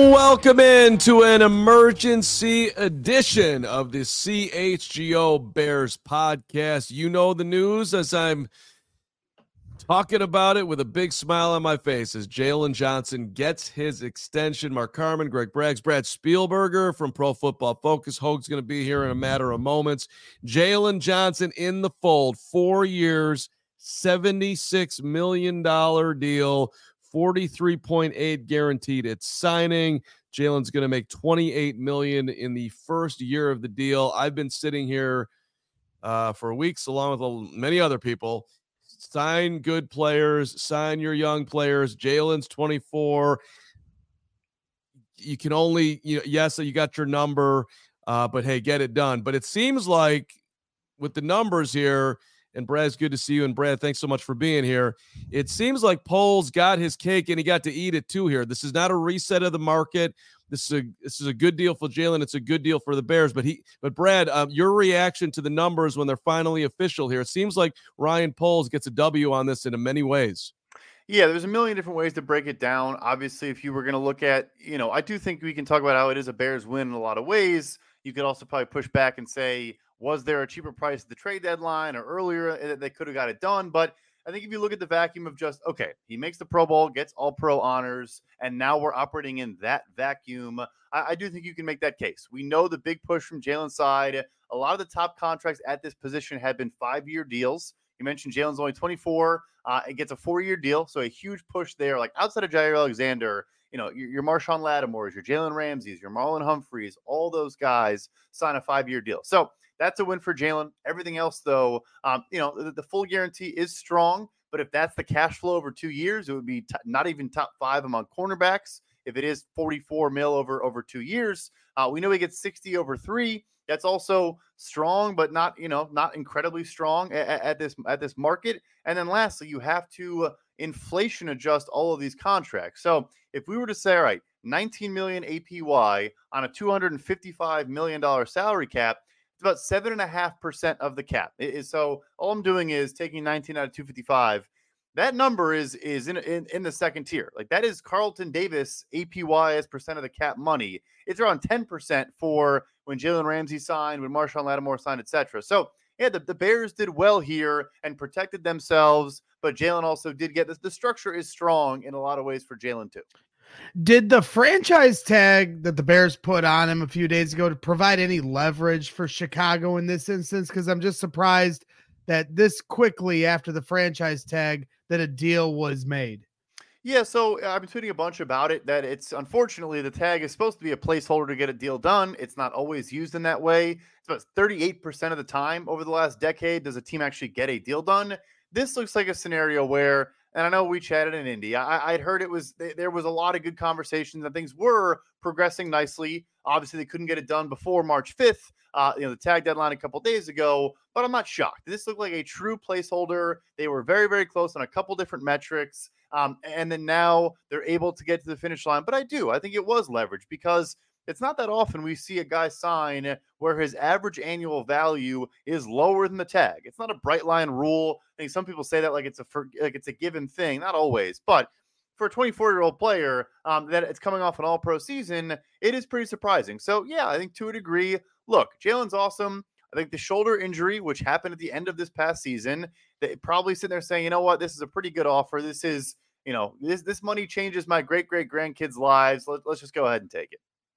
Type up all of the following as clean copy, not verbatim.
Welcome into an emergency edition of the CHGO Bears podcast. You know the news as I'm talking about it with a big smile on my face as Jaylon Johnson gets his extension. Mark Carman, Greg Braggs, Brad Spielberger from Pro Football Focus. Hoag's going to be here in a matter of moments. Jaylon Johnson in the fold, 4 years, $76 million deal. 43.8 guaranteed at signing. Jaylon's going to make $28 million in the first year of the deal. I've been sitting here for weeks along with many other people. Sign good players, sign your young players. Jaylon's 24. You can only, yes, you got your number, but hey, get it done. But it seems like with the numbers here, and Brad, it's good to see you. And Brad, thanks so much for being here. It seems like Poles got his cake and he got to eat it too here. This is not a reset of the market. This is a good deal for Jaylon. It's a good deal for the Bears. But Brad, your reaction to the numbers when they're finally official here? It seems like Ryan Poles gets a W on this in many ways. Yeah, there's a million different ways to break it down. Obviously, if you were going to look at, I do think we can talk about how it is a Bears win in a lot of ways. You could also probably push back and say, was there a cheaper price at the trade deadline or earlier that they could have got it done? But I think if you look at the vacuum of just, okay, he makes the Pro Bowl, gets all pro honors, and now we're operating in that vacuum, I do think you can make that case. We know the big push from Jaylon's side. A lot of the top contracts at this position have been 5-year deals. You mentioned Jaylon's only 24. It gets a 4-year deal, so a huge push there. Like outside of Jair Alexander, your Marshawn Lattimore's, your Jalen Ramsey's, your Marlon Humphreys, all those guys sign a 5-year deal. So that's a win for Jaylon. Everything else, though, the full guarantee is strong. But if that's the cash flow over 2 years, it would be not even top 5 among cornerbacks. If it is $44 million over 2 years, we know he gets 60 over 3. That's also strong, but not incredibly strong at this market. And then lastly, you have to inflation adjust all of these contracts. So if we were to say, all right, $19 million APY on a $255 million salary cap, it's about 7.5% of the cap. So all I'm doing is taking 19 out of 255. That number is in the second tier. Like that is Carlton Davis APY as percent of the cap money. It's around 10% for when Jalen Ramsey signed, when Marshawn Lattimore signed, etc. So yeah, the Bears did well here and protected themselves, but Jaylon also did get this. The structure is strong in a lot of ways for Jaylon too. Did the franchise tag that the Bears put on him a few days ago to provide any leverage for Chicago in this instance? Because I'm just surprised that this quickly after the franchise tag that a deal was made. Yeah, so I've been tweeting a bunch about it, that it's unfortunately the tag is supposed to be a placeholder to get a deal done. It's not always used in that way. It's about 38% of the time over the last decade does a team actually get a deal done. This looks like a scenario where, and I know we chatted in Indy, I'd heard there was a lot of good conversations and things were progressing nicely. Obviously, they couldn't get it done before March 5th, the tag deadline a couple days ago, but I'm not shocked. This looked like a true placeholder. They were very, very close on a couple different metrics. And then now they're able to get to the finish line. But I think it was leverage because it's not that often we see a guy sign where his average annual value is lower than the tag. It's not a bright line rule. I think some people say that like it's a given thing. Not always, but for a 24-year-old player that it's coming off an all-pro season, it is pretty surprising. So, yeah, I think to a degree, look, Jaylon's awesome. I think the shoulder injury, which happened at the end of this past season, they probably sitting there saying, you know what, this is a pretty good offer. This is, this money changes my great-great-grandkids' lives. Let's just go ahead and take it.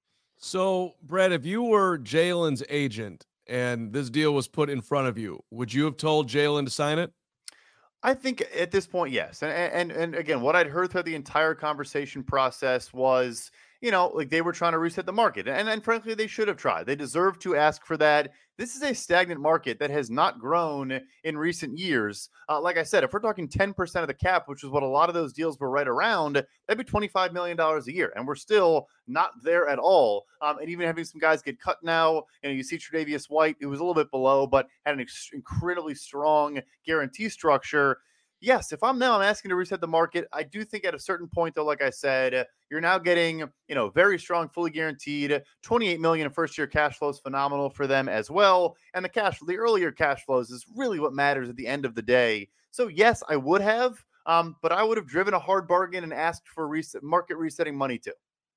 So, Brad, if you were Jaylon's agent and this deal was put in front of you, would you have told Jaylon to sign it? I think at this point, yes. And again, what I'd heard throughout the entire conversation process was, like they were trying to reset the market. And frankly, they should have tried. They deserve to ask for that. This is a stagnant market that has not grown in recent years. Like I said, if we're talking 10% of the cap, which is what a lot of those deals were right around, that'd be $25 million a year. And we're still not there at all. And even having some guys get cut now, you see Tre'Davious White, who was a little bit below, but had an incredibly strong guarantee structure. Yes, if I'm asking to reset the market. I do think at a certain point, though, like I said, you're now getting, very strong, fully guaranteed $28 million in first-year cash flows, phenomenal for them as well. And the earlier cash flows is really what matters at the end of the day. So yes, I would have, but I would have driven a hard bargain and asked for market resetting money too.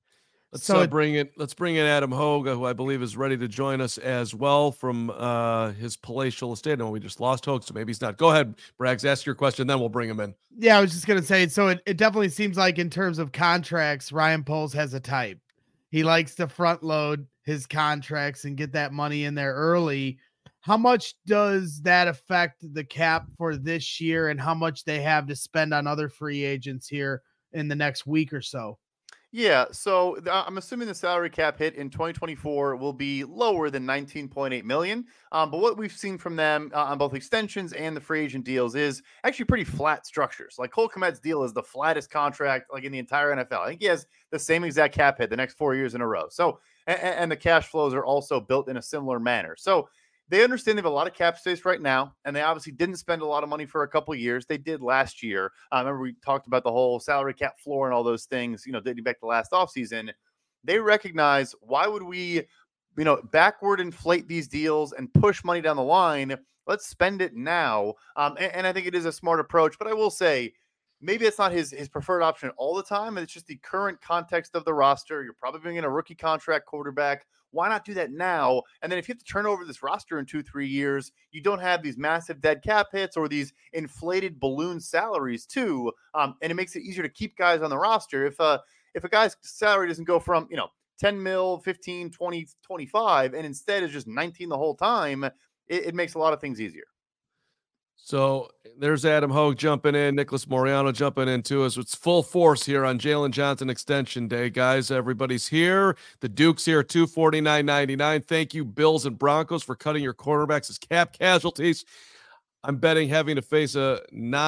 Let's bring in Adam Hogue, who I believe is ready to join us as well from his palatial estate. No, we just lost Hogue, so maybe he's not. Go ahead, Braggs, ask your question, then we'll bring him in. Yeah, I was just going to say, so it definitely seems like in terms of contracts, Ryan Poles has a type. He likes to front load his contracts and get that money in there early. How much does that affect the cap for this year and how much they have to spend on other free agents here in the next week or so? Yeah, so I'm assuming the salary cap hit in 2024 will be lower than 19.8 million. But what we've seen from them on both extensions and the free agent deals is actually pretty flat structures. Like Cole Kmet's deal is the flattest contract like in the entire NFL. I think he has the same exact cap hit the next 4 years in a row. So, and the cash flows are also built in a similar manner. So they understand they have a lot of cap space right now, and they obviously didn't spend a lot of money for a couple of years. They did last year. Remember we talked about the whole salary cap floor and all those things, dating back to last offseason. They recognize, why would we, backward inflate these deals and push money down the line? Let's spend it now. And I think it is a smart approach, but I will say, maybe it's not his preferred option all the time. It's just the current context of the roster. You're probably bringing a rookie contract quarterback. Why not do that now? And then if you have to turn over this roster in 2-3 years, you don't have these massive dead cap hits or these inflated balloon salaries too. And it makes it easier to keep guys on the roster. If a guy's salary doesn't go from, 10 mil, 15, 20, 25, and instead is just 19 the whole time, it makes a lot of things easier. So there's Adam Hogue jumping in, Nicholas Moriano jumping in too. It's full force here on Jalen Johnson Extension Day, guys. Everybody's here. The Duke's here, $249.99. Thank you, Bills and Broncos, for cutting your quarterbacks as cap casualties. I'm betting having to face a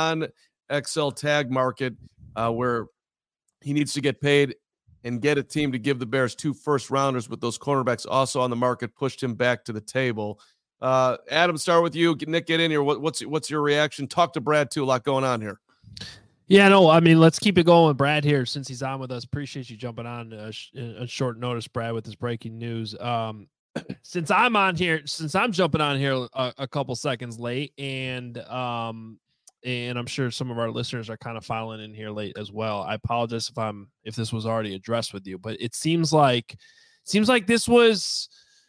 non-XL tag market where he needs to get paid and get a team to give the Bears 2 first-rounders with those cornerbacks also on the market, pushed him back to the table. Adam, start with you. Nick, get in here. What's your reaction? Talk to Brad too. A lot going on here. Yeah, no, I mean, let's keep it going with Brad here since he's on with us. Appreciate you jumping on on short notice, Brad, with this breaking news. Since I'm jumping on here a couple seconds late, and I'm sure some of our listeners are kind of filing in here late as well. I apologize if this was already addressed with you, but it seems like this was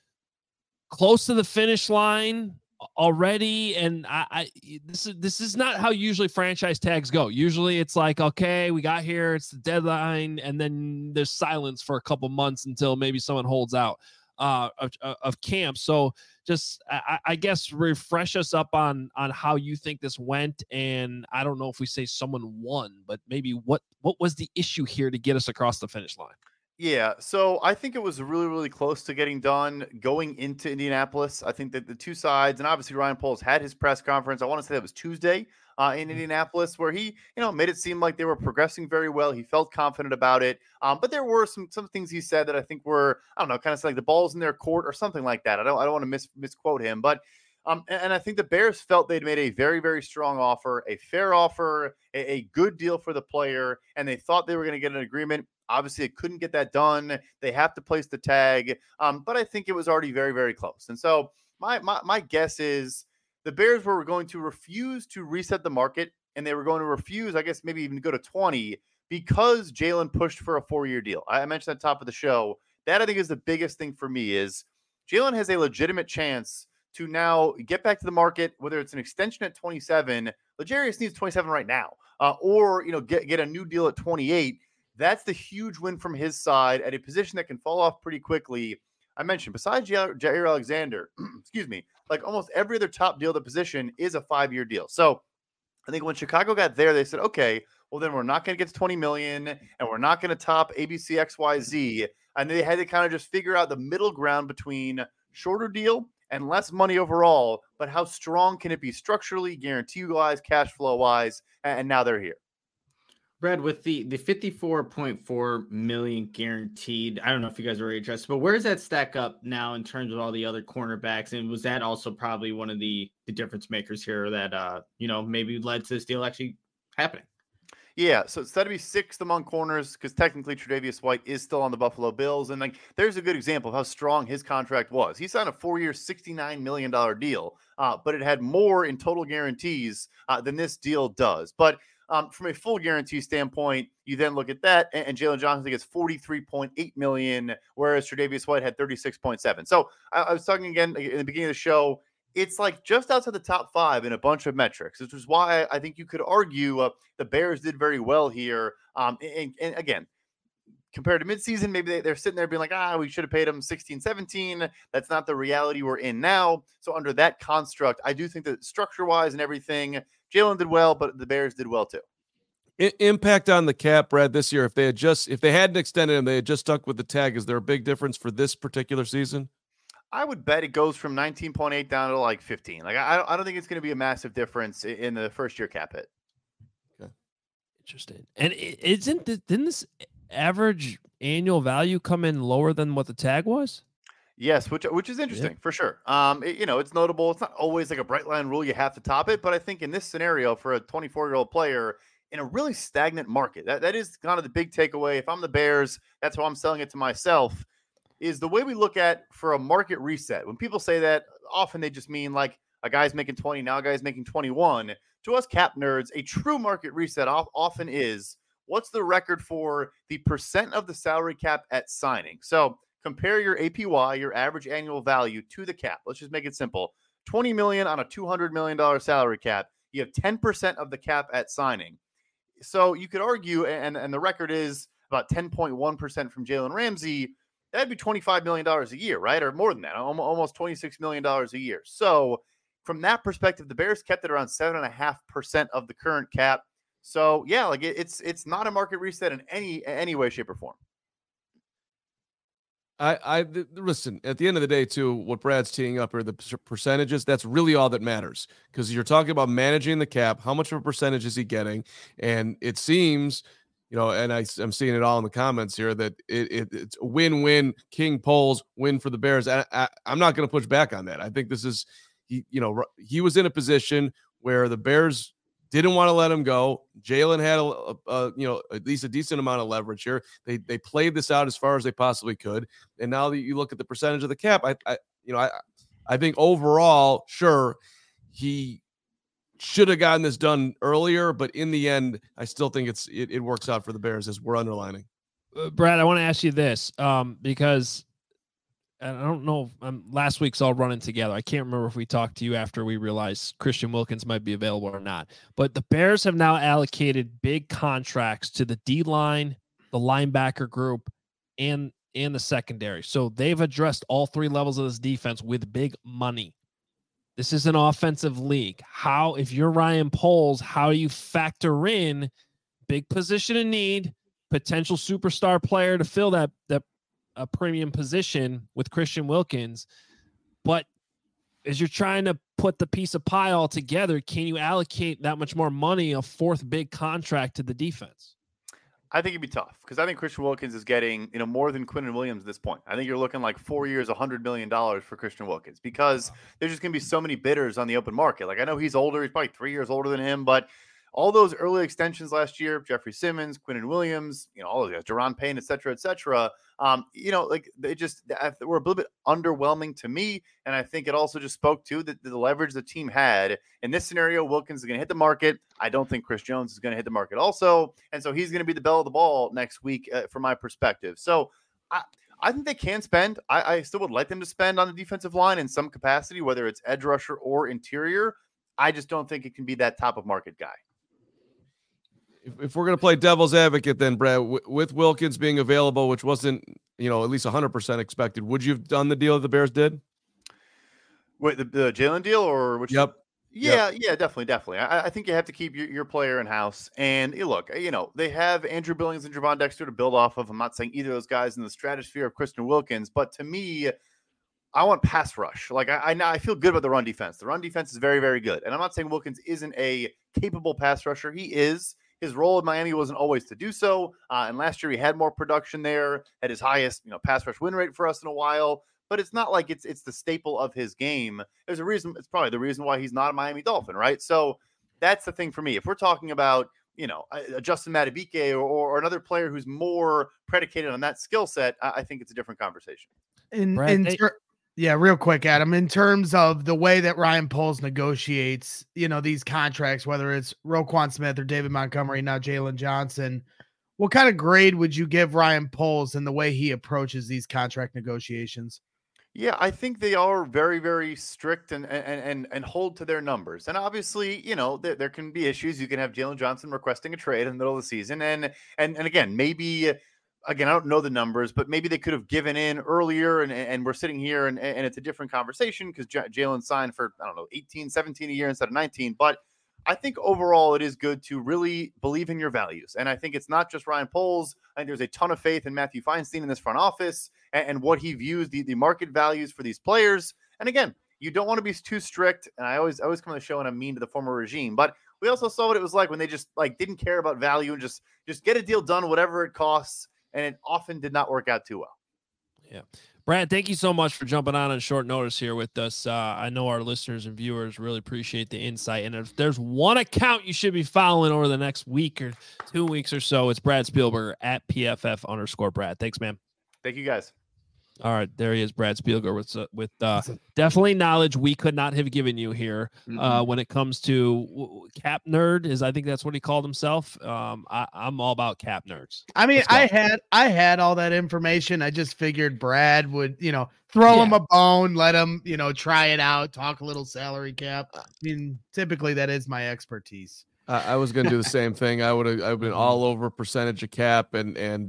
close to the finish line already, and this is not how usually franchise tags go. Usually it's like, okay, we got here, it's the deadline, and then there's silence for a couple months until maybe someone holds out of camp. So just I guess refresh us up on how you think this went, and I don't know if we say someone won, but maybe what was the issue here to get us across the finish line? Yeah, so I think it was really, really close to getting done going into Indianapolis. I think that the two sides, and obviously Ryan Poles had his press conference. I want to say that was Tuesday in Indianapolis, where he, made it seem like they were progressing very well. He felt confident about it. But there were some things he said that I think were, I don't know, kind of like the ball's in their court or something like that. I don't want to misquote him, but and I think the Bears felt they'd made a very, very strong offer, a fair offer, a good deal for the player, and they thought they were going to get an agreement. Obviously, they couldn't get that done. They have to place the tag, but I think it was already very, very close. And so my guess is the Bears were going to refuse to reset the market, and they were going to refuse, I guess, maybe even go to 20 because Jalen pushed for a 4-year deal. I mentioned at the top of the show. That, I think, is the biggest thing for me is Jalen has a legitimate chance to now get back to the market, whether it's an extension at 27. L'Jarius needs 27 right now, or get a new deal at 28. That's the huge win from his side at a position that can fall off pretty quickly. I mentioned, besides Jair Alexander, excuse me, like almost every other top deal at the position is a 5-year deal. So I think when Chicago got there, they said, okay, well, then we're not going to get to 20 million and we're not going to top ABC XYZ. And they had to kind of just figure out the middle ground between shorter deal and less money overall, but how strong can it be structurally, guarantee-wise, cash flow-wise, and now they're here. Brad, with the 54.4 million guaranteed, I don't know if you guys are already addressed, but where does that stack up now in terms of all the other cornerbacks? And was that also probably one of the difference makers here that, maybe led to this deal actually happening? Yeah, so instead to be 6th among corners, because technically Tre'Davious White is still on the Buffalo Bills, and there's a good example of how strong his contract was. He signed a 4-year, $69 million deal, but it had more in total guarantees than this deal does. But From a full guarantee standpoint, you then look at that, and Jalen Johnson gets $43.8 million, whereas Tre'Davious White had $36.7. So I was talking again in the beginning of the show. It's like just outside the top 5 in a bunch of metrics, which is why I think you could argue the Bears did very well here. And again, compared to midseason, maybe they're sitting there being like, we should have paid him 16, 17. That's not the reality we're in now. So under that construct, I do think that structure-wise and everything, Jalen did well, but the Bears did well too. Impact on the cap, Brad, this year, if they hadn't extended him, they had just stuck with the tag, is there a big difference for this particular season? I would bet it goes from 19.8 down to like 15. Like I don't think it's going to be a massive difference in the first year cap hit. Okay. Interesting. And didn't this average annual value come in lower than what the tag was? Yes, which is interesting for sure. It's notable. It's not always like a bright line rule you have to top it, but I think in this scenario for a 24-year-old player in a really stagnant market, that is kind of the big takeaway. If I'm the Bears, that's how I'm selling it to myself. Is the way we look at for a market reset. When people say that, often they just mean like a guy's making 20, now a guy's making 21. To us cap nerds, a true market reset often is what's the record for the percent of the salary cap at signing. So compare your APY, your average annual value, to the cap. Let's just make it simple. $20 million on a $200 million salary cap. You have 10% of the cap at signing. So you could argue, and the record is about 10.1% from Jalen Ramsey. That'd be $25 million a year, right? Or more than that, almost $26 million a year. So from that perspective, the Bears kept it around 7.5% of the current cap. So yeah, like it's not a market reset in any way, shape, or form. I listen, at the end of the day, too, what Brad's teeing up are the percentages. That's really all that matters, because you're talking about managing the cap. How much of a percentage is he getting? And it seems, and I'm seeing it all in the comments here, that it's a win-win. King polls win for the Bears. I'm not going to push back on that. I think this is, he was in a position where the Bears didn't want to let him go. Jalen had at least a decent amount of leverage here. They played this out as far as they possibly could. And now that you look at the percentage of the cap, I think overall, sure, he should have gotten this done earlier, but in the end, I still think it works out for the Bears, as we're underlining. Brad, I want to ask you this, because I don't know, last week's all running together. I can't remember if we talked to you after we realized Christian Wilkins might be available or not. But the Bears have now allocated big contracts to the D-line, the linebacker group, and the secondary. So they've addressed all 3 levels of this defense with big money. This is an offensive league. If you're Ryan Poles, how do you factor in big position of need, potential superstar player to fill that a premium position with Christian Wilkins, but as you're trying to put the piece of pie all together, can you allocate that much more money, a 4th big contract, to the defense? I think it'd be tough, because I think Christian Wilkins is getting, more than Quinnen Williams at this point. I think you're looking like 4 years, $100 million for Christian Wilkins, because there's just going to be so many bidders on the open market. Like, I know he's older. He's probably 3 years older than him, but all those early extensions last year, Jeffrey Simmons, Quinnen Williams, all those guys, Deron Payne, et cetera, they were a little bit underwhelming to me. And I think it also just spoke to the leverage the team had. In this scenario, Wilkins is going to hit the market. I don't think Chris Jones is going to hit the market also. And so he's going to be the belle of the ball next week from my perspective. So I think they can spend. I still would like them to spend on the defensive line in some capacity, whether it's edge rusher or interior. I just don't think it can be that top of market guy. If we're going to play devil's advocate, then, Brad, with Wilkins being available, which wasn't, at least 100% expected, would you have done the deal that the Bears did? Wait, the Jalen deal, or which? Yep. Yeah, definitely. I think you have to keep your player in house. And look, they have Andrew Billings and Javon Dexter to build off of. I'm not saying either of those guys in the stratosphere of Christian Wilkins, but to me, I want pass rush. Like I feel good about the run defense. The run defense is very, very good. And I'm not saying Wilkins isn't a capable pass rusher. He is. His role in Miami wasn't always to do so. And last year he had more production there, had his highest, pass rush win rate for us in a while. But it's not like it's the staple of his game. There's a reason. It's probably the reason why he's not a Miami Dolphin, right? So that's the thing for me. If we're talking about, a Justin Madubuike or another player who's more predicated on that skill set, I think it's a different conversation. Yeah, real quick, Adam, in terms of the way that Ryan Poles negotiates, these contracts, whether it's Roquan Smith or David Montgomery, now Jalen Johnson, what kind of grade would you give Ryan Poles in the way he approaches these contract negotiations? Yeah, I think they are very, very strict and hold to their numbers. And obviously, there can be issues. You can have Jalen Johnson requesting a trade in the middle of the season, and again, maybe again, I don't know the numbers, but maybe they could have given in earlier, and we're sitting here and it's a different conversation because Jalen signed for, I don't know, 18, 17 a year instead of 19. But I think overall it is good to really believe in your values. And I think it's not just Ryan Poles. I think there's a ton of faith in Matthew Feinstein in this front office and what he views the market values for these players. And again, you don't want to be too strict. And I always come on the show and I'm mean to the former regime, but we also saw what it was like when they just didn't care about value and just get a deal done, whatever it costs. And it often did not work out too well. Yeah. Brad, thank you so much for jumping on short notice here with us. I know our listeners and viewers really appreciate the insight. And if there's one account you should be following over the next week or 2 weeks or so, it's Brad Spielberger at PFF_Brad. Thanks, man. Thank you, guys. All right, there he is, Brad Spielberger, with definitely knowledge we could not have given you here when it comes to cap nerd. I think that's what he called himself. I'm all about cap nerds. I mean, I had all that information. I just figured Brad would, throw him a bone, let him, try it out, talk a little salary cap. I mean, typically that is my expertise. I was going to do the same thing. I've been all over percentage of cap and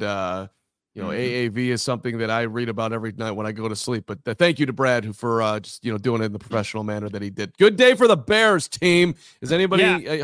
AAV is something that I read about every night when I go to sleep. But thank you to Brad for just doing it in the professional manner that he did. Good day for the Bears team. Is anybody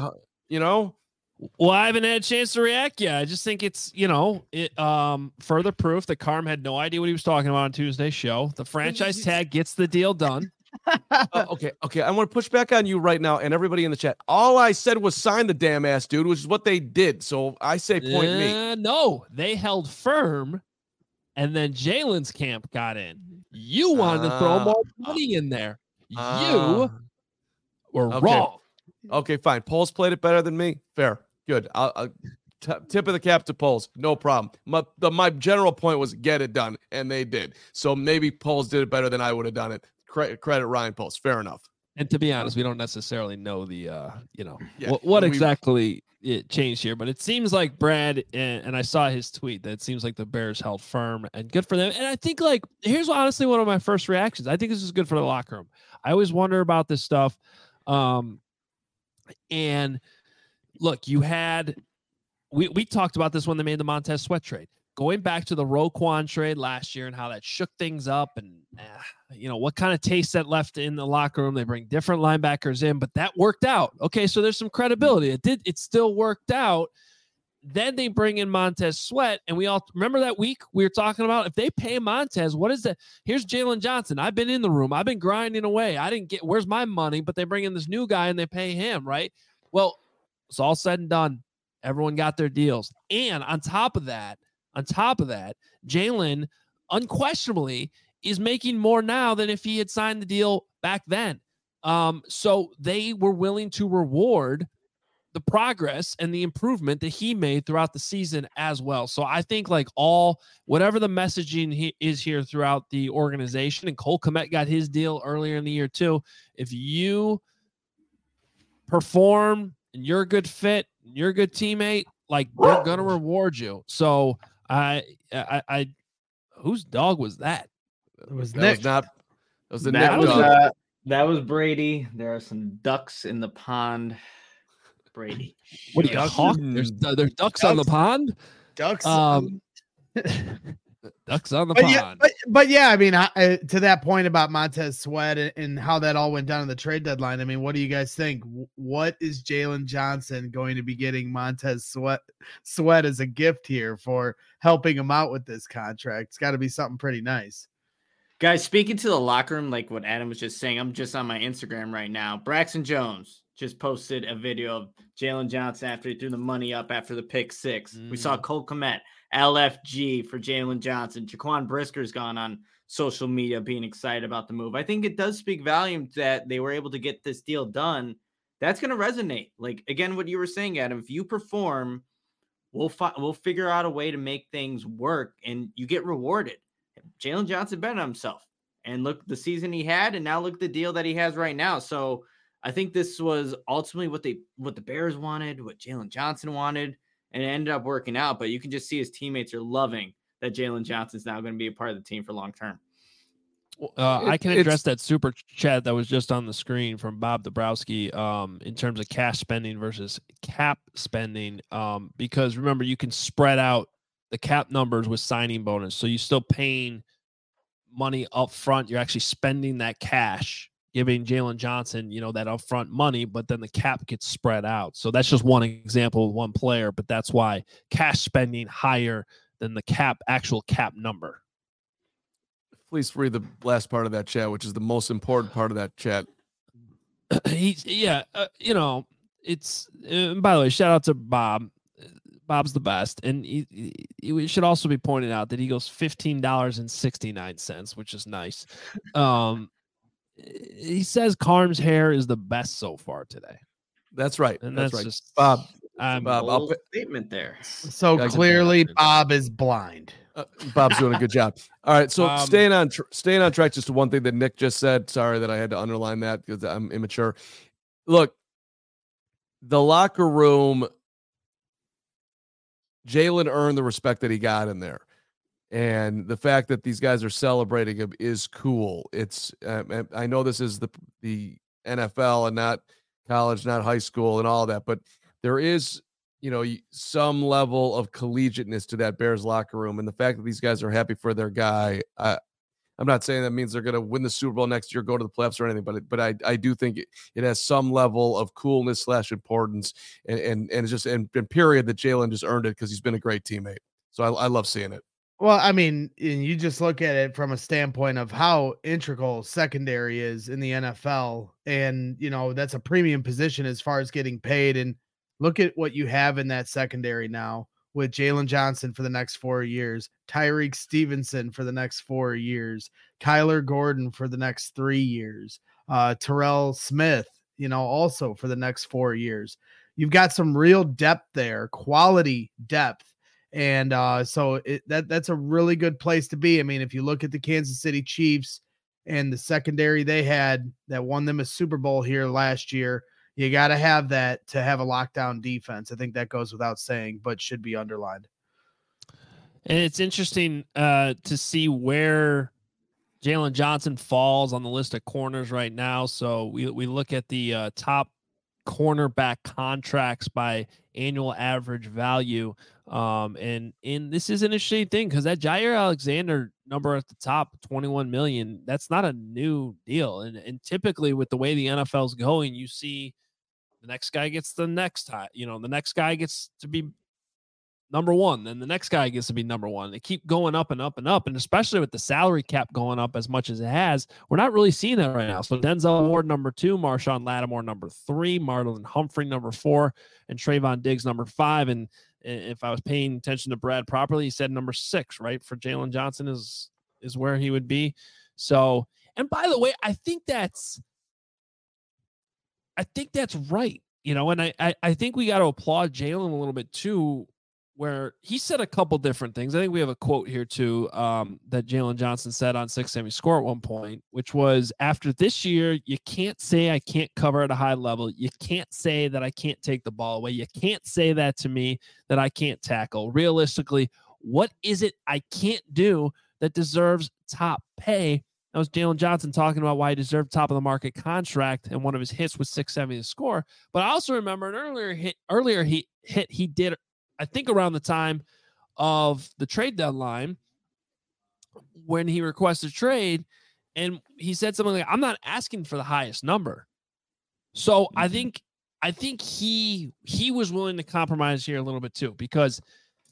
Well, I haven't had a chance to react yet. I just think it's further proof that Carm had no idea what he was talking about on Tuesday's show. The franchise tag gets the deal done. Okay. I want to push back on you right now and everybody in the chat. All I said was sign the damn ass dude, which is what they did. So I say point me. No, they held firm, and then Jalen's camp got in. You wanted to throw more money in there. You were wrong. Okay, fine. Poles played it better than me. Fair. Good. I'll tip of the cap to Poles. No problem. My general point was get it done, and they did. So maybe Poles did it better than I would have done it. Credit Ryan Poles. Fair enough. And to be honest, we don't necessarily know the what exactly it changed here, but it seems like Brad and I saw his tweet that it seems like the Bears held firm, and good for them. And I think here's honestly one of my first reactions. I think this is good for the locker room. I always wonder about this stuff. And look, we talked about this when they made the Montez Sweat trade. Going back to the Roquan trade last year and how that shook things up and, what kind of taste that left in the locker room. They bring different linebackers in, but that worked out. Okay, so there's some credibility. It still worked out. Then they bring in Montez Sweat, and we all remember that week we were talking about if they pay Montez, what is that? Here's Jalen Johnson. I've been in the room. I've been grinding away. I didn't get where's my money, but they bring in this new guy and they pay him, right? Well, it's all said and done. Everyone got their deals. And on top of that, Jalen unquestionably is making more now than if he had signed the deal back then. So they were willing to reward the progress and the improvement that he made throughout the season as well. So I think whatever the messaging is here throughout the organization, and Cole Kmet got his deal earlier in the year too. If you perform and you're a good fit, and you're a good teammate, they're going to reward you. So I whose dog was that? It was Nick. That was the Nick dog. That was Brady. There are some ducks in the pond. Brady. What are you, hawk? There's ducks on the pond? Ducks. Ducks on the pond. But yeah, I mean, to that point about Montez Sweat and how that all went down in the trade deadline, I mean, what do you guys think? What is Jalen Johnson going to be getting Montez Sweat as a gift here for helping him out with this contract? It's got to be something pretty nice. Guys, speaking to the locker room, like what Adam was just saying, I'm just on my Instagram right now. Braxton Jones just posted a video of Jalen Johnson after he threw the money up after the pick six. We saw Cole Kmet, LFG for Jalen Johnson. Jaquan Brisker's gone on social media being excited about the move. I think it does speak volumes that they were able to get this deal done. That's going to resonate. Again, what you were saying, Adam, if you perform, we'll figure out a way to make things work and you get rewarded. Jalen Johnson bet on himself. And look the season he had, and now look the deal that he has right now. So I think this was ultimately what the Bears wanted, what Jalen Johnson wanted, and it ended up working out. But you can just see his teammates are loving that Jalen Johnson's now going to be a part of the team for long term. I can address that super chat that was just on the screen from Bob Dabrowski in terms of cash spending versus cap spending. Because remember, you can spread out the cap numbers with signing bonus. So you're still paying money up front. You're actually spending that cash, giving Jalen Johnson, that upfront money, but then the cap gets spread out. So that's just one example of one player, but that's why cash spending higher than the actual cap number. Please read the last part of that chat, which is the most important part of that chat. It's by the way, shout out to Bob. Bob's the best. And it should also be pointed out that he goes $15.69, which is nice. He says Carm's hair is the best so far today. That's right. And that's that's right. just Bob. Bold statement there. So clearly Bob is blind. Bob's doing a good job. All right, so staying on track. Just one thing that Nick just said. Sorry that I had to underline that because I'm immature. Look, the locker room. Jalen earned the respect that he got in there, and the fact that these guys are celebrating him is cool. It's I know this is the NFL and not college, not high school, and all that, but there is. Some level of collegiateness to that Bears locker room. And the fact that these guys are happy for their guy, I'm not saying that means they're going to win the Super Bowl next year, go to the playoffs or anything, but I do think it has some level of coolness / importance and it's just, and period, that Jalen just earned it because he's been a great teammate. So I love seeing it. Well, I mean, you just look at it from a standpoint of how integral secondary is in the NFL. And, that's a premium position as far as getting paid. And look at what you have in that secondary now with Jalen Johnson for the next 4 years, Tyreek Stevenson for the next 4 years, Kyler Gordon for the next 3 years, Terrell Smith, also for the next 4 years. You've got some real depth there, quality depth. And so that's a really good place to be. I mean, if you look at the Kansas City Chiefs and the secondary they had that won them a Super Bowl here last year, you got to have that to have a lockdown defense. I think that goes without saying, but should be underlined. And it's interesting to see where Jalen Johnson falls on the list of corners right now. So we look at the top cornerback contracts by annual average value. And this is an interesting thing because that Jair Alexander number at the top, 21 million, that's not a new deal. And typically with the way the NFL's going, you see the next guy gets the next high, the next guy gets to be number one, then the next guy gets to be number one. They keep going up and up and up. And especially with the salary cap going up as much as it has, we're not really seeing that right now. So Denzel Ward, number 2, Marshawn Lattimore, number 3, Marlon Humphrey, number 4, and Trayvon Diggs, number 5. And if I was paying attention to Brad properly, he said number 6, right? For Jalen Johnson is where he would be. So, and by the way, I think that's right. And I think we got to applaud Jalen a little bit too, where he said a couple different things. I think we have a quote here too that Jalen Johnson said on 670 Score at one point, which was, after this year, you can't say I can't cover at a high level. You can't say that I can't take the ball away. You can't say that to me, that I can't tackle. Realistically, what is it I can't do that deserves top pay? That was Jalen Johnson talking about why he deserved top of the market contract, and one of his hits was 670 Score. But I also remember an earlier hit he did, I think around the time of the trade deadline, when he requested trade, and he said something like, I'm not asking for the highest number. So I think he was willing to compromise here a little bit too, because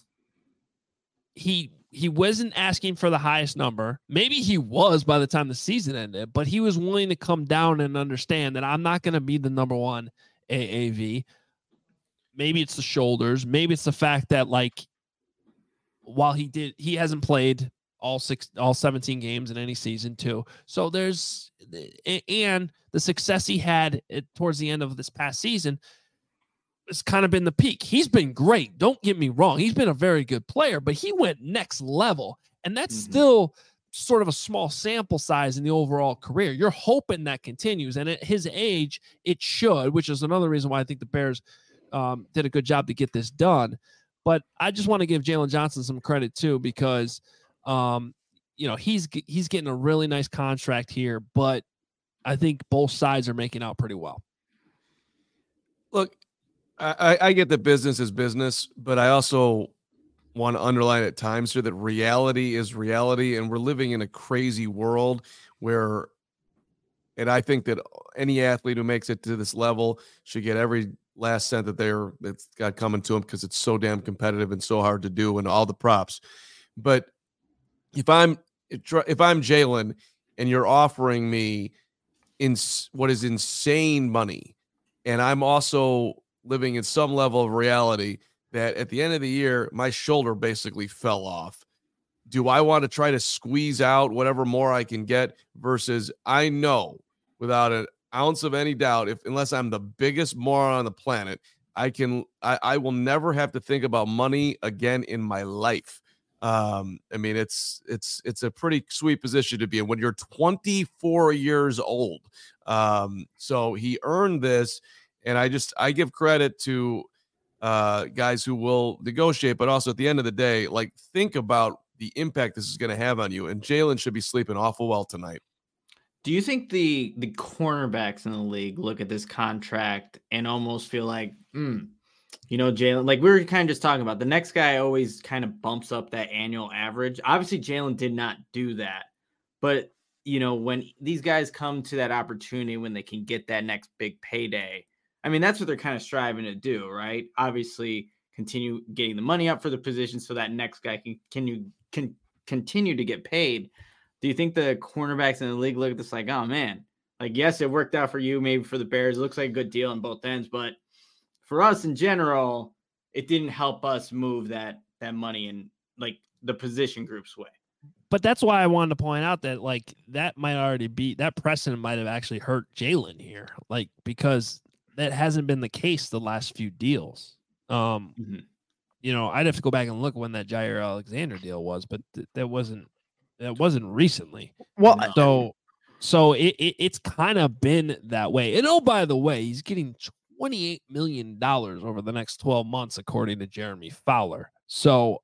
he wasn't asking for the highest number. Maybe he was by the time the season ended, but he was willing to come down and understand that I'm not going to be the number one AAV. Maybe it's the shoulders. Maybe it's the fact that, like, while he hasn't played all 17 games in any season too. So and the success he had towards the end of this past season has kind of been the peak. He's been great. Don't get me wrong. He's been a very good player, but he went next level. And that's still sort of a small sample size in the overall career. You're hoping that continues, and at his age, it should, which is another reason why I think the Bears did a good job to get this done. But I just want to give Jalen Johnson some credit too, because he's getting a really nice contract here, but I think both sides are making out pretty well. Look, I get that business is business, but I also want to underline at times here that reality is reality, and we're living in a crazy world where, and I think that any athlete who makes it to this level should get every last cent that's got coming to them, because it's so damn competitive and so hard to do, and all the props. But if I'm Jalen and you're offering me what is insane money, and I'm also living in some level of reality that at the end of the year, my shoulder basically fell off. Do I want to try to squeeze out whatever more I can get versus I know without an ounce of any doubt, unless I'm the biggest moron on the planet, I will never have to think about money again in my life. I mean, it's a pretty sweet position to be in when you're 24 years old. So he earned this, and I give credit to guys who will negotiate, but also at the end of the day, like, think about the impact this is going to have on you. And Jalen should be sleeping awful well tonight. Do you think the cornerbacks in the league look at this contract and almost feel like, Jalen, like we were kind of just talking about, the next guy always kind of bumps up that annual average. Obviously, Jalen did not do that. But, when these guys come to that opportunity, when they can get that next big payday, I mean, that's what they're kind of striving to do, right? Obviously, continue getting the money up for the position so that next guy can continue to get paid. Do you think the cornerbacks in the league look at this like, oh, man, like, yes, it worked out for you, maybe for the Bears. It looks like a good deal on both ends. But for us in general, it didn't help us move that money in, like, the position group's way. But that's why I wanted to point out that, like, that might already be – that precedent might have actually hurt Jalen here, like, because – that hasn't been the case the last few deals. I'd have to go back and look when that Jair Alexander deal was, but that wasn't recently. Well, so it's kind of been that way. And oh, by the way, he's getting $28 million over the next 12 months, according to Jeremy Fowler. So,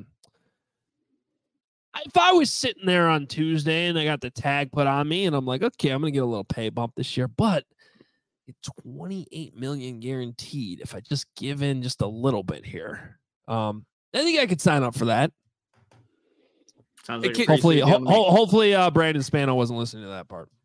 if I was sitting there on Tuesday and I got the tag put on me and I'm like, okay, I'm going to get a little pay bump this year, but $28 million guaranteed if I just give in just a little bit here. I think I could sign up for that. Sounds like hopefully Brandon Spano wasn't listening to that part.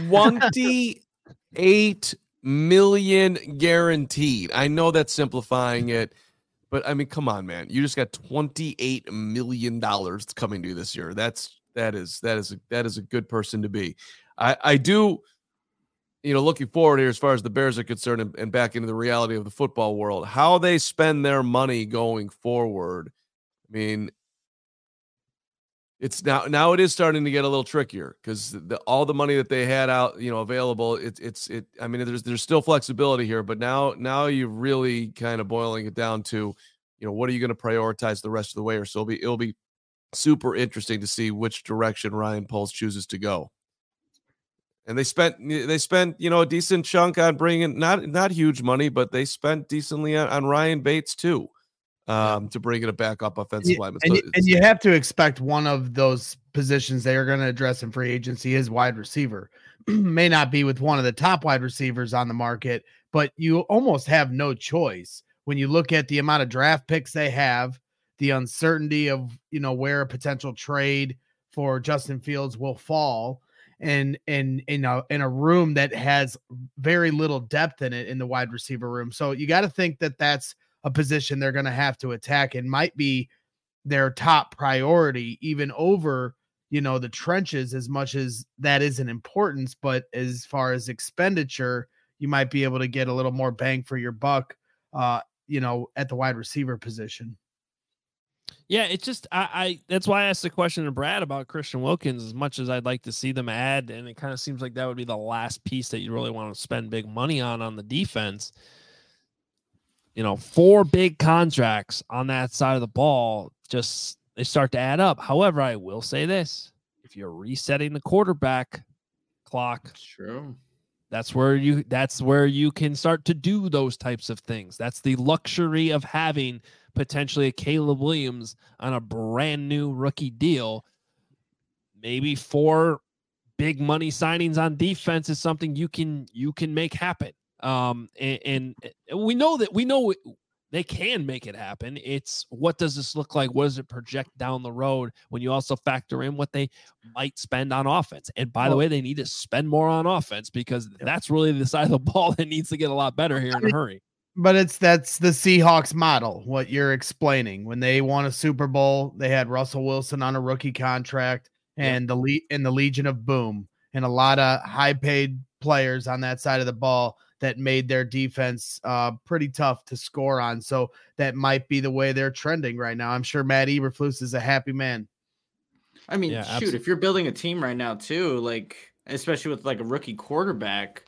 $28 million guaranteed. I know that's simplifying it, but I mean, come on, man. You just got $28 million coming to you this year. That is a good person to be. I do. Looking forward here as far as the Bears are concerned and back into the reality of the football world, how they spend their money going forward. I mean, it's now it is starting to get a little trickier because all the money that they had out, available, I mean, there's still flexibility here, but now you're really kind of boiling it down to, what are you going to prioritize the rest of the way? Or so it'll be super interesting to see which direction Ryan Poles chooses to go. And they spent a decent chunk on bringing not huge money, but they spent decently on Ryan Bates too, to bring it a backup offensive lineman. And you have to expect one of those positions they are going to address in free agency is wide receiver. May not be with one of the top wide receivers on the market, but you almost have no choice when you look at the amount of draft picks they have, the uncertainty of where a potential trade for Justin Fields will fall. And in a room that has very little depth in it in the wide receiver room. So you got to think that that's a position they're going to have to attack and might be their top priority, even over, the trenches, as much as that is an importance. But as far as expenditure, you might be able to get a little more bang for your buck, at the wide receiver position. Yeah, it's just I that's why I asked the question to Brad about Christian Wilkins. As much as I'd like to see them add, and it kind of seems like that would be the last piece that you really want to spend big money on the defense. 4 big contracts on that side of the ball, just they start to add up. However, I will say this: if you're resetting the quarterback clock, True. that's where you can start to do those types of things. That's the luxury of having potentially a Caleb Williams on a brand new rookie deal. Maybe 4 big money signings on defense is something you can make happen. And we know they can make it happen. It's what does this look like? What does it project down the road when you also factor in what they might spend on offense? And by the way, they need to spend more on offense because that's really the side of the ball that needs to get a lot better here in a hurry. But that's the Seahawks model, what you're explaining. When they won a Super Bowl, they had Russell Wilson on a rookie contract and the Legion of Boom and a lot of high paid players on that side of the ball that made their defense pretty tough to score on. So that might be the way they're trending right now. I'm sure Matt Eberflus is a happy man. I mean, shoot, if you're building a team right now too, like especially with like a rookie quarterback,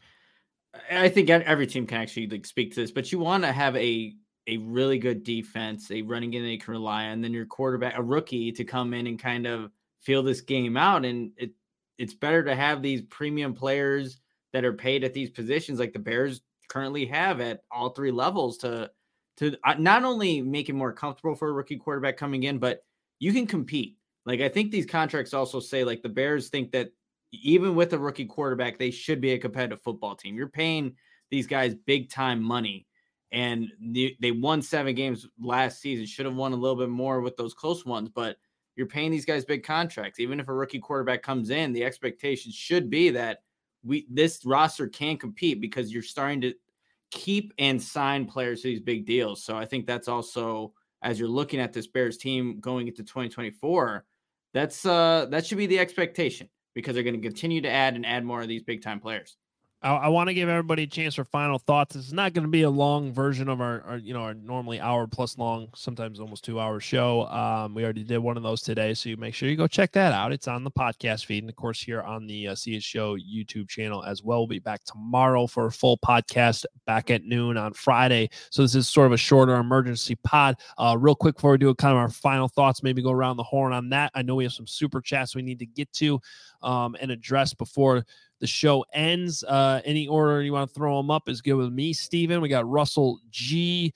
I think every team can actually like speak to this, but you want to have a really good defense, a running game that you can rely on, and then your quarterback, a rookie, to come in and kind of feel this game out. And it's better to have these premium players that are paid at these positions like the Bears currently have at all 3 levels to not only make it more comfortable for a rookie quarterback coming in, but you can compete. Like, I think these contracts also say like the Bears think that even with a rookie quarterback, they should be a competitive football team. You're paying these guys big time money, and they won 7 games last season, should have won a little bit more with those close ones, but you're paying these guys big contracts. Even if a rookie quarterback comes in, the expectation should be that this roster can compete because you're starting to keep and sign players to these big deals. So I think that's also, as you're looking at this Bears team going into 2024, that should be the expectation because they're going to continue to add more of these big time players. I want to give everybody a chance for final thoughts. This is not going to be a long version of our normally hour plus long, sometimes almost 2 hour show. We already did one of those today, so you make sure you go check that out. It's on the podcast feed, and of course here on the CS Show YouTube channel as well. We'll be back tomorrow for a full podcast back at noon on Friday. So this is sort of a shorter emergency pod. Real quick before we do kind of our final thoughts, maybe go around the horn on that. I know we have some super chats we need to get to and address before the show ends. Any order you want to throw them up is good with me, Steven. We got Russell G,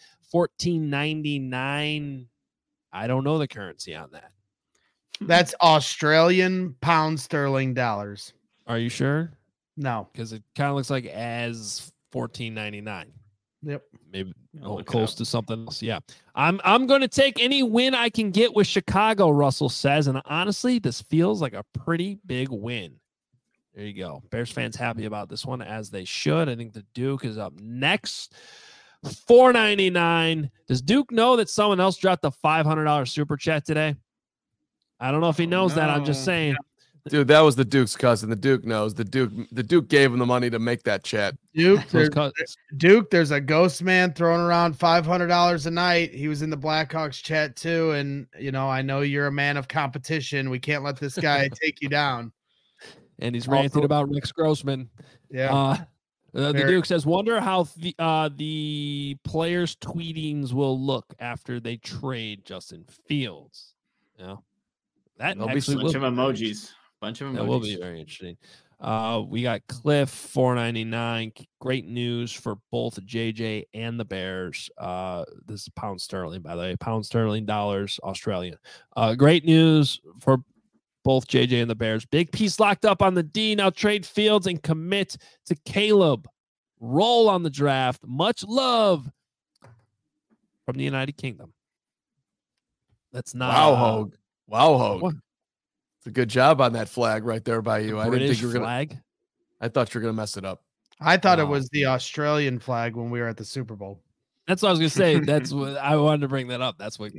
14.99. I don't know the currency on that. That's Australian pound sterling dollars. Are you sure? No, because it kind of looks like as 14.99. Yep, maybe close to something else. Yeah, I'm going to take any win I can get with Chicago. Russell says, and honestly, this feels like a pretty big win. There you go. Bears fans happy about this one, as they should. I think the Duke is up next. $4.99. Does Duke know that someone else dropped the $500 super chat today? I don't know if he knows that. I'm just saying. Dude, that was the Duke's cousin. The Duke knows. The Duke gave him the money to make that chat. Duke, there's a ghost man throwing around $500 a night. He was in the Blackhawks chat too. And, I know you're a man of competition. We can't let this guy take you down. And he's ranting about Rex Grossman. Yeah. The Duke says, wonder how the players' tweetings will look after they trade Justin Fields. That will be a bunch of emojis. That will be very interesting. We got Cliff, $4.99. Great news for both JJ and the Bears. This is pound sterling, by the way. Pound sterling, dollars, Australian. Great news for both JJ and the Bears. Big piece locked up on the D. Now trade Fields and commit to Caleb. Roll on the draft. Much love from the United Kingdom. That's not Wow, Hogue. It's a good job on that flag right there by you. I didn't think you were flag. I thought you were gonna mess it up. I thought it was the Australian flag when we were at the Super Bowl. That's what I was gonna say. That's what I wanted to bring that up. That's what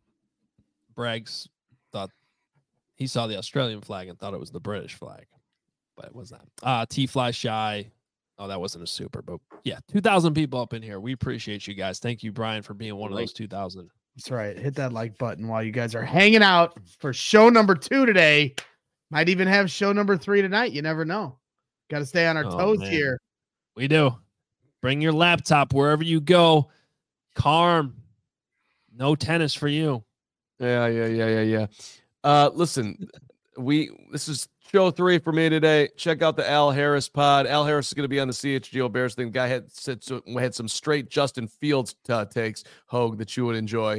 Braggs thought. He saw the Australian flag and thought it was the British flag, but it was not. T-Fly Shy. Oh, that wasn't a super, but yeah, 2,000 people up in here. We appreciate you guys. Thank you, Brian, for being one of those 2,000. That's right. Hit that like button while you guys are hanging out for show number 2 today. Might even have show number 3 tonight. You never know. Got to stay on our toes here. We do. Bring your laptop wherever you go. Carm. No tennis for you. Yeah. Listen, This is show 3 for me today. Check out the Al Harris pod. Al Harris is going to be on the CHGO Bears thing. The guy had some straight Justin Fields takes, Hogue, that you would enjoy.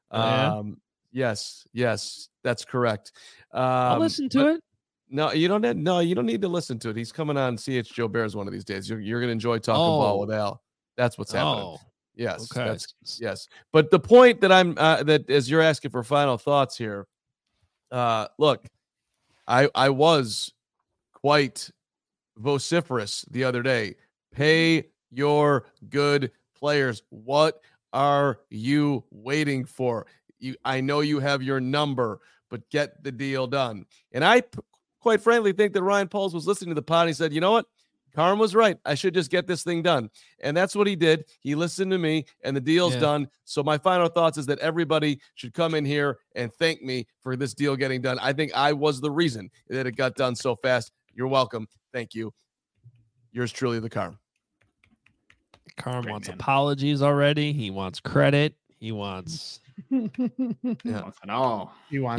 Yes, that's correct. I'll listen to it. No, you don't need to listen to it. He's coming on CHGO Bears one of these days. You're going to enjoy talking ball with Al. That's what's happening. Yes, okay. Yes. But the point that that as you're asking for final thoughts here, look, I was quite vociferous the other day. Pay your good players. What are you waiting for? I know you have your number, but get the deal done. And I quite frankly think that Ryan Poles was listening to the pod and he said, you know what? Carm was right. I should just get this thing done. And that's what he did. He listened to me and the deal's done. So my final thoughts is that everybody should come in here and thank me for this deal getting done. I think I was the reason that it got done so fast. You're welcome. Thank you. Yours truly, the Carm. Carm wants apologies already. He wants credit. He wants it all.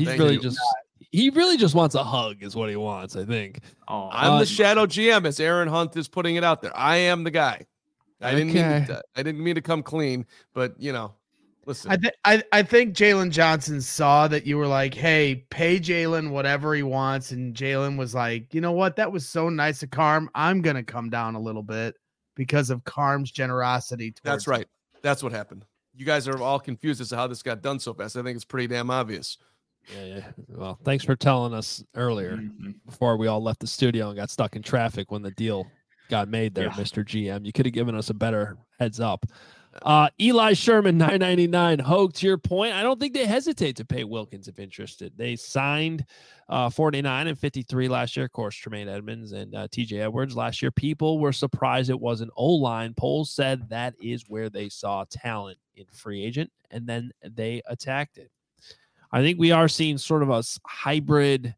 He really just wants a hug is what he wants, I think. I'm the shadow GM, as Aaron Hunt is putting it out there. I am the guy. I didn't mean to come clean, but listen. I think Jalen Johnson saw that you were like, hey, pay Jalen whatever he wants, and Jalen was like, you know what? That was so nice of Carm. I'm gonna come down a little bit because of Carm's generosity. That's right. That's what happened. You guys are all confused as to how this got done so fast. I think it's pretty damn obvious. Yeah. Well, thanks for telling us earlier before we all left the studio and got stuck in traffic when the deal got made there, Mr. GM. You could have given us a better heads up. Eli Sherman, $9.99. Hogue, to your point, I don't think they hesitate to pay Wilkins if interested. They signed 49 and 53 last year. Of course, Tremaine Edmonds and TJ Edwards last year. People were surprised it was an O-line. Poles said that is where they saw talent in free agent, and then they attacked it. I think we are seeing sort of a hybrid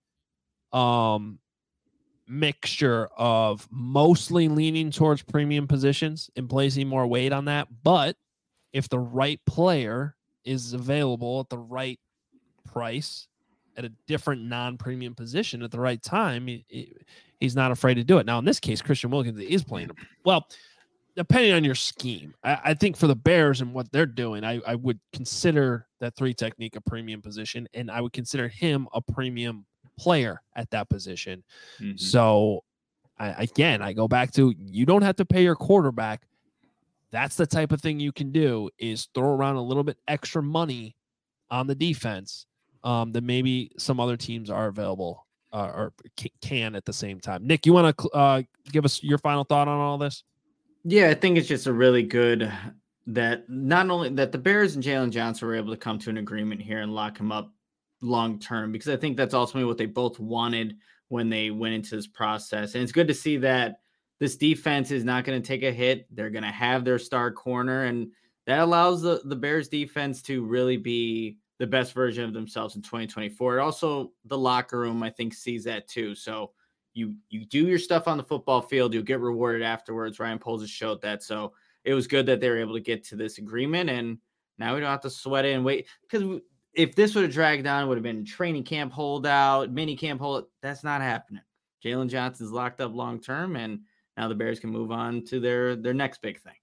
mixture of mostly leaning towards premium positions and placing more weight on that. But if the right player is available at the right price at a different non-premium position at the right time, he's not afraid to do it. Now, in this case, Christian Wilkins is playing well, depending on your scheme. I think for the Bears and what they're doing, I would consider that 3 technique a premium position, and I would consider him a premium player at that position. So I go back to, you don't have to pay your quarterback. That's the type of thing you can do, is throw around a little bit extra money on the defense that maybe some other teams are available or can at the same time. Nick, you want to give us your final thought on all this? Yeah, I think it's just a really good that not only that the Bears and Jalen Johnson were able to come to an agreement here and lock him up long term, because I think that's ultimately what they both wanted when they went into this process. And it's good to see that this defense is not going to take a hit. They're going to have their star corner, and that allows the Bears defense to really be the best version of themselves in 2024. Also, the locker room, I think, sees that too. So you do your stuff on the football field, you'll get rewarded afterwards. Ryan Poles has showed that. So it was good that they were able to get to this agreement, and now we don't have to sweat it and wait, because if this would have dragged on, it would have been training camp holdout, mini camp holdout. That's not happening. Jalen Johnson's locked up long term, and now the Bears can move on to their next big thing.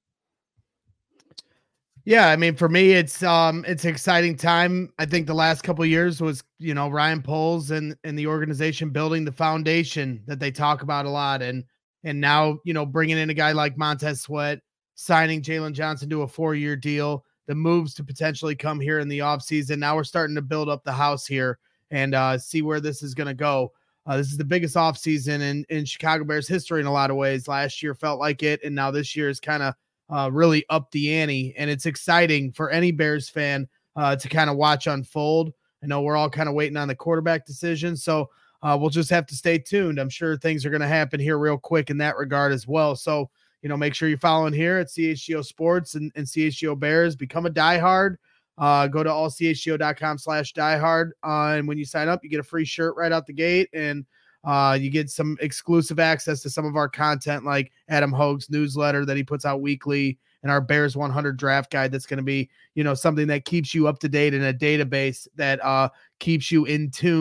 Yeah, I mean, for me, it's an exciting time. I think the last couple of years was, Ryan Poles and the organization building the foundation that they talk about a lot, and now bringing in a guy like Montez Sweat, signing Jalen Johnson to a 4-year deal, the moves to potentially come here in the offseason. Now we're starting to build up the house here and see where this is going to go. This is the biggest offseason in Chicago Bears history in a lot of ways. Last year felt like it, and now this year is kind of really up the ante, and it's exciting for any Bears fan to kind of watch unfold. I know we're all kind of waiting on the quarterback decision, so we'll just have to stay tuned. I'm sure things are going to happen here real quick in that regard as well. So, make sure you're following here at CHGO Sports and CHGO Bears. Become a diehard. Go to allchgo.com/diehard. And when you sign up, you get a free shirt right out the gate, and you get some exclusive access to some of our content, like Adam Hogue's newsletter that he puts out weekly, and our Bears 100 draft guide. That's going to be, something that keeps you up to date in a database that keeps you in tune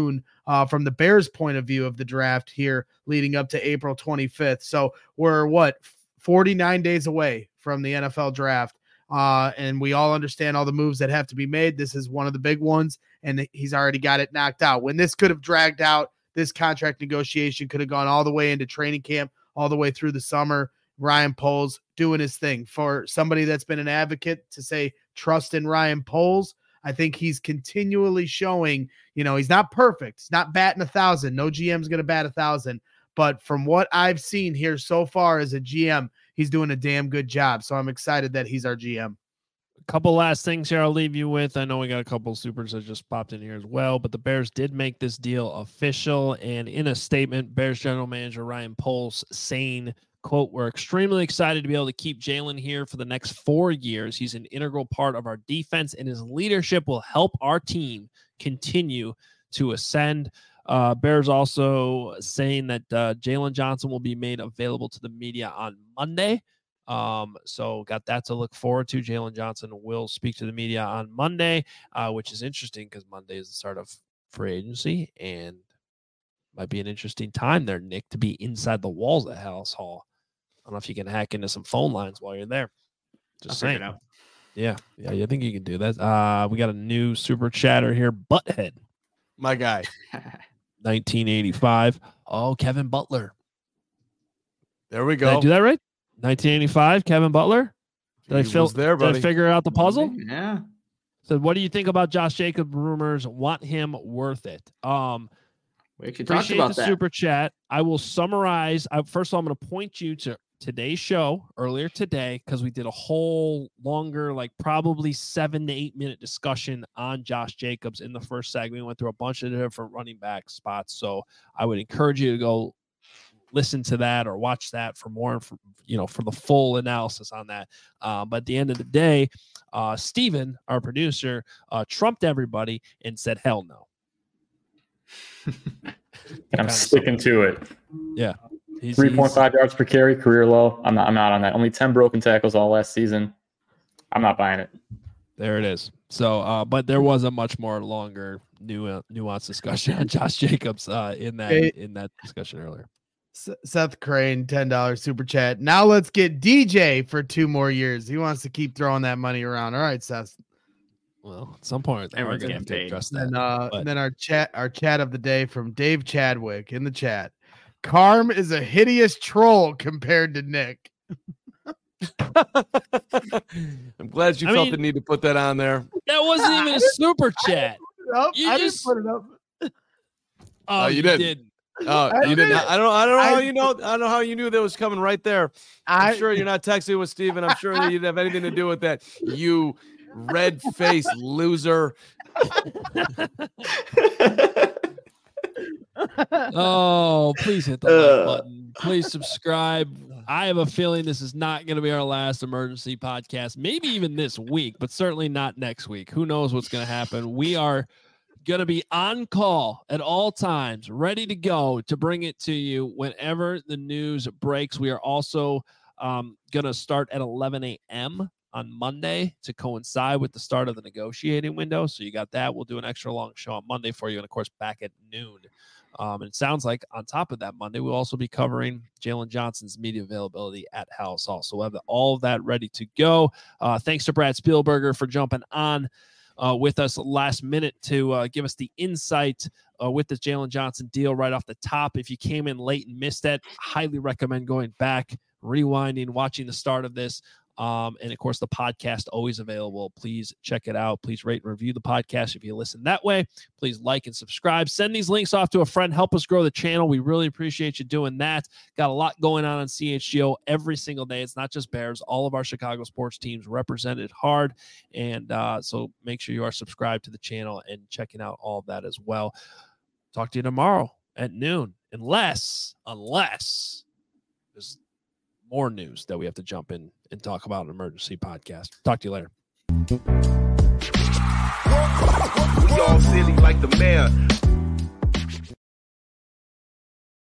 from the Bears' point of view of the draft here leading up to April 25th. So we're 49 days away from the NFL draft. And we all understand all the moves that have to be made. This is one of the big ones, and he's already got it knocked out. When this could have dragged out, this contract negotiation could have gone all the way into training camp, all the way through the summer. Ryan Poles doing his thing. For somebody that's been an advocate to say trust in Ryan Poles, I think he's continually showing, he's not perfect. He's not batting 1,000. No GM's going to bat 1,000. But from what I've seen here so far as a GM, he's doing a damn good job. So I'm excited that he's our GM. A couple last things here I'll leave you with. I know we got a couple supers that just popped in here as well, but the Bears did make this deal official. And in a statement, Bears general manager Ryan Poles saying, quote, "We're extremely excited to be able to keep Jalen here for the next 4 years. He's an integral part of our defense, and his leadership will help our team continue to ascend." Bears also saying that Jalen Johnson will be made available to the media on Monday. So got that to look forward to. Jalen Johnson will speak to the media on Monday, which is interesting because Monday is the start of free agency and might be an interesting time there, Nick, to be inside the walls at Halas Hall. I don't know if you can hack into some phone lines while you're there. Just saying. Yeah, I think you can do that. We got a new super chatter here, Butthead. My guy. 1985. Oh, Kevin Butler. There we Did I go. do that right? 1985, Kevin Butler. Did I figure out the puzzle? Yeah. So what do you think about Josh Jacobs rumors? Want him worth it? We actually talked Appreciate about the that. super chat. I will summarize. First of all, I'm going to point you to today's show earlier today because we did a whole longer, like probably 7 to 8 minute discussion on Josh Jacobs in the first segment. We went through a bunch of different running back spots. So I would encourage you to go listen to that or watch that for more, for the full analysis on that. But at the end of the day, Steven, our producer, trumped everybody and said, hell no. I'm sticking to it. Yeah. 3.5 yards per carry, career low. I'm not on that. Only 10 broken tackles all last season. I'm not buying it. There it is. So, but there was a much more longer, nuanced discussion on Josh Jacobs in that discussion earlier. Seth Crane, $10 super chat. Now let's get DJ for 2 more years. He wants to keep throwing that money around. All right, Seth. Well, at some point, everyone's getting paid. And then our chat of the day from Dave Chadwick in the chat. Carm is a hideous troll compared to Nick. I'm glad you felt the need to put that on there. That wasn't even a super chat. I didn't put it up. Oh, you didn't. Oh, you didn't. I don't know how you know. I don't know how you knew that was coming right there. I'm sure you're not texting with Steven. I'm sure that you didn't have anything to do with that. You red-faced loser. Oh, please hit the like button. Please subscribe. I have a feeling this is not going to be our last emergency podcast, maybe even this week, but certainly not next week. Who knows what's going to happen? We are going to be on call at all times, ready to go to bring it to you whenever the news breaks. We are also going to start at 11 a.m. on Monday to coincide with the start of the negotiating window. So you got that. We'll do an extra long show on Monday for you. And of course, back at noon. And it sounds like on top of that Monday, we'll also be covering Jalen Johnson's media availability at Halas Hall. So we'll have all of that ready to go. Thanks to Brad Spielberger for jumping on with us last minute to give us the insight with the Jalen Johnson deal right off the top. If you came in late and missed that, highly recommend going back, rewinding, watching the start of this. And of course, the podcast always available. Please check it out. Please rate and review the podcast if you listen that way. Please like and subscribe. Send these links off to a friend. Help us grow the channel. We really appreciate you doing that. Got a lot going on CHGO every single day. It's not just Bears. All of our Chicago sports teams represented hard. And so make sure you are subscribed to the channel and checking out all of that as well. Talk to you tomorrow at noon, unless there's more news that we have to jump in and talk about an emergency podcast. Talk to you later. We all silly like the mayor.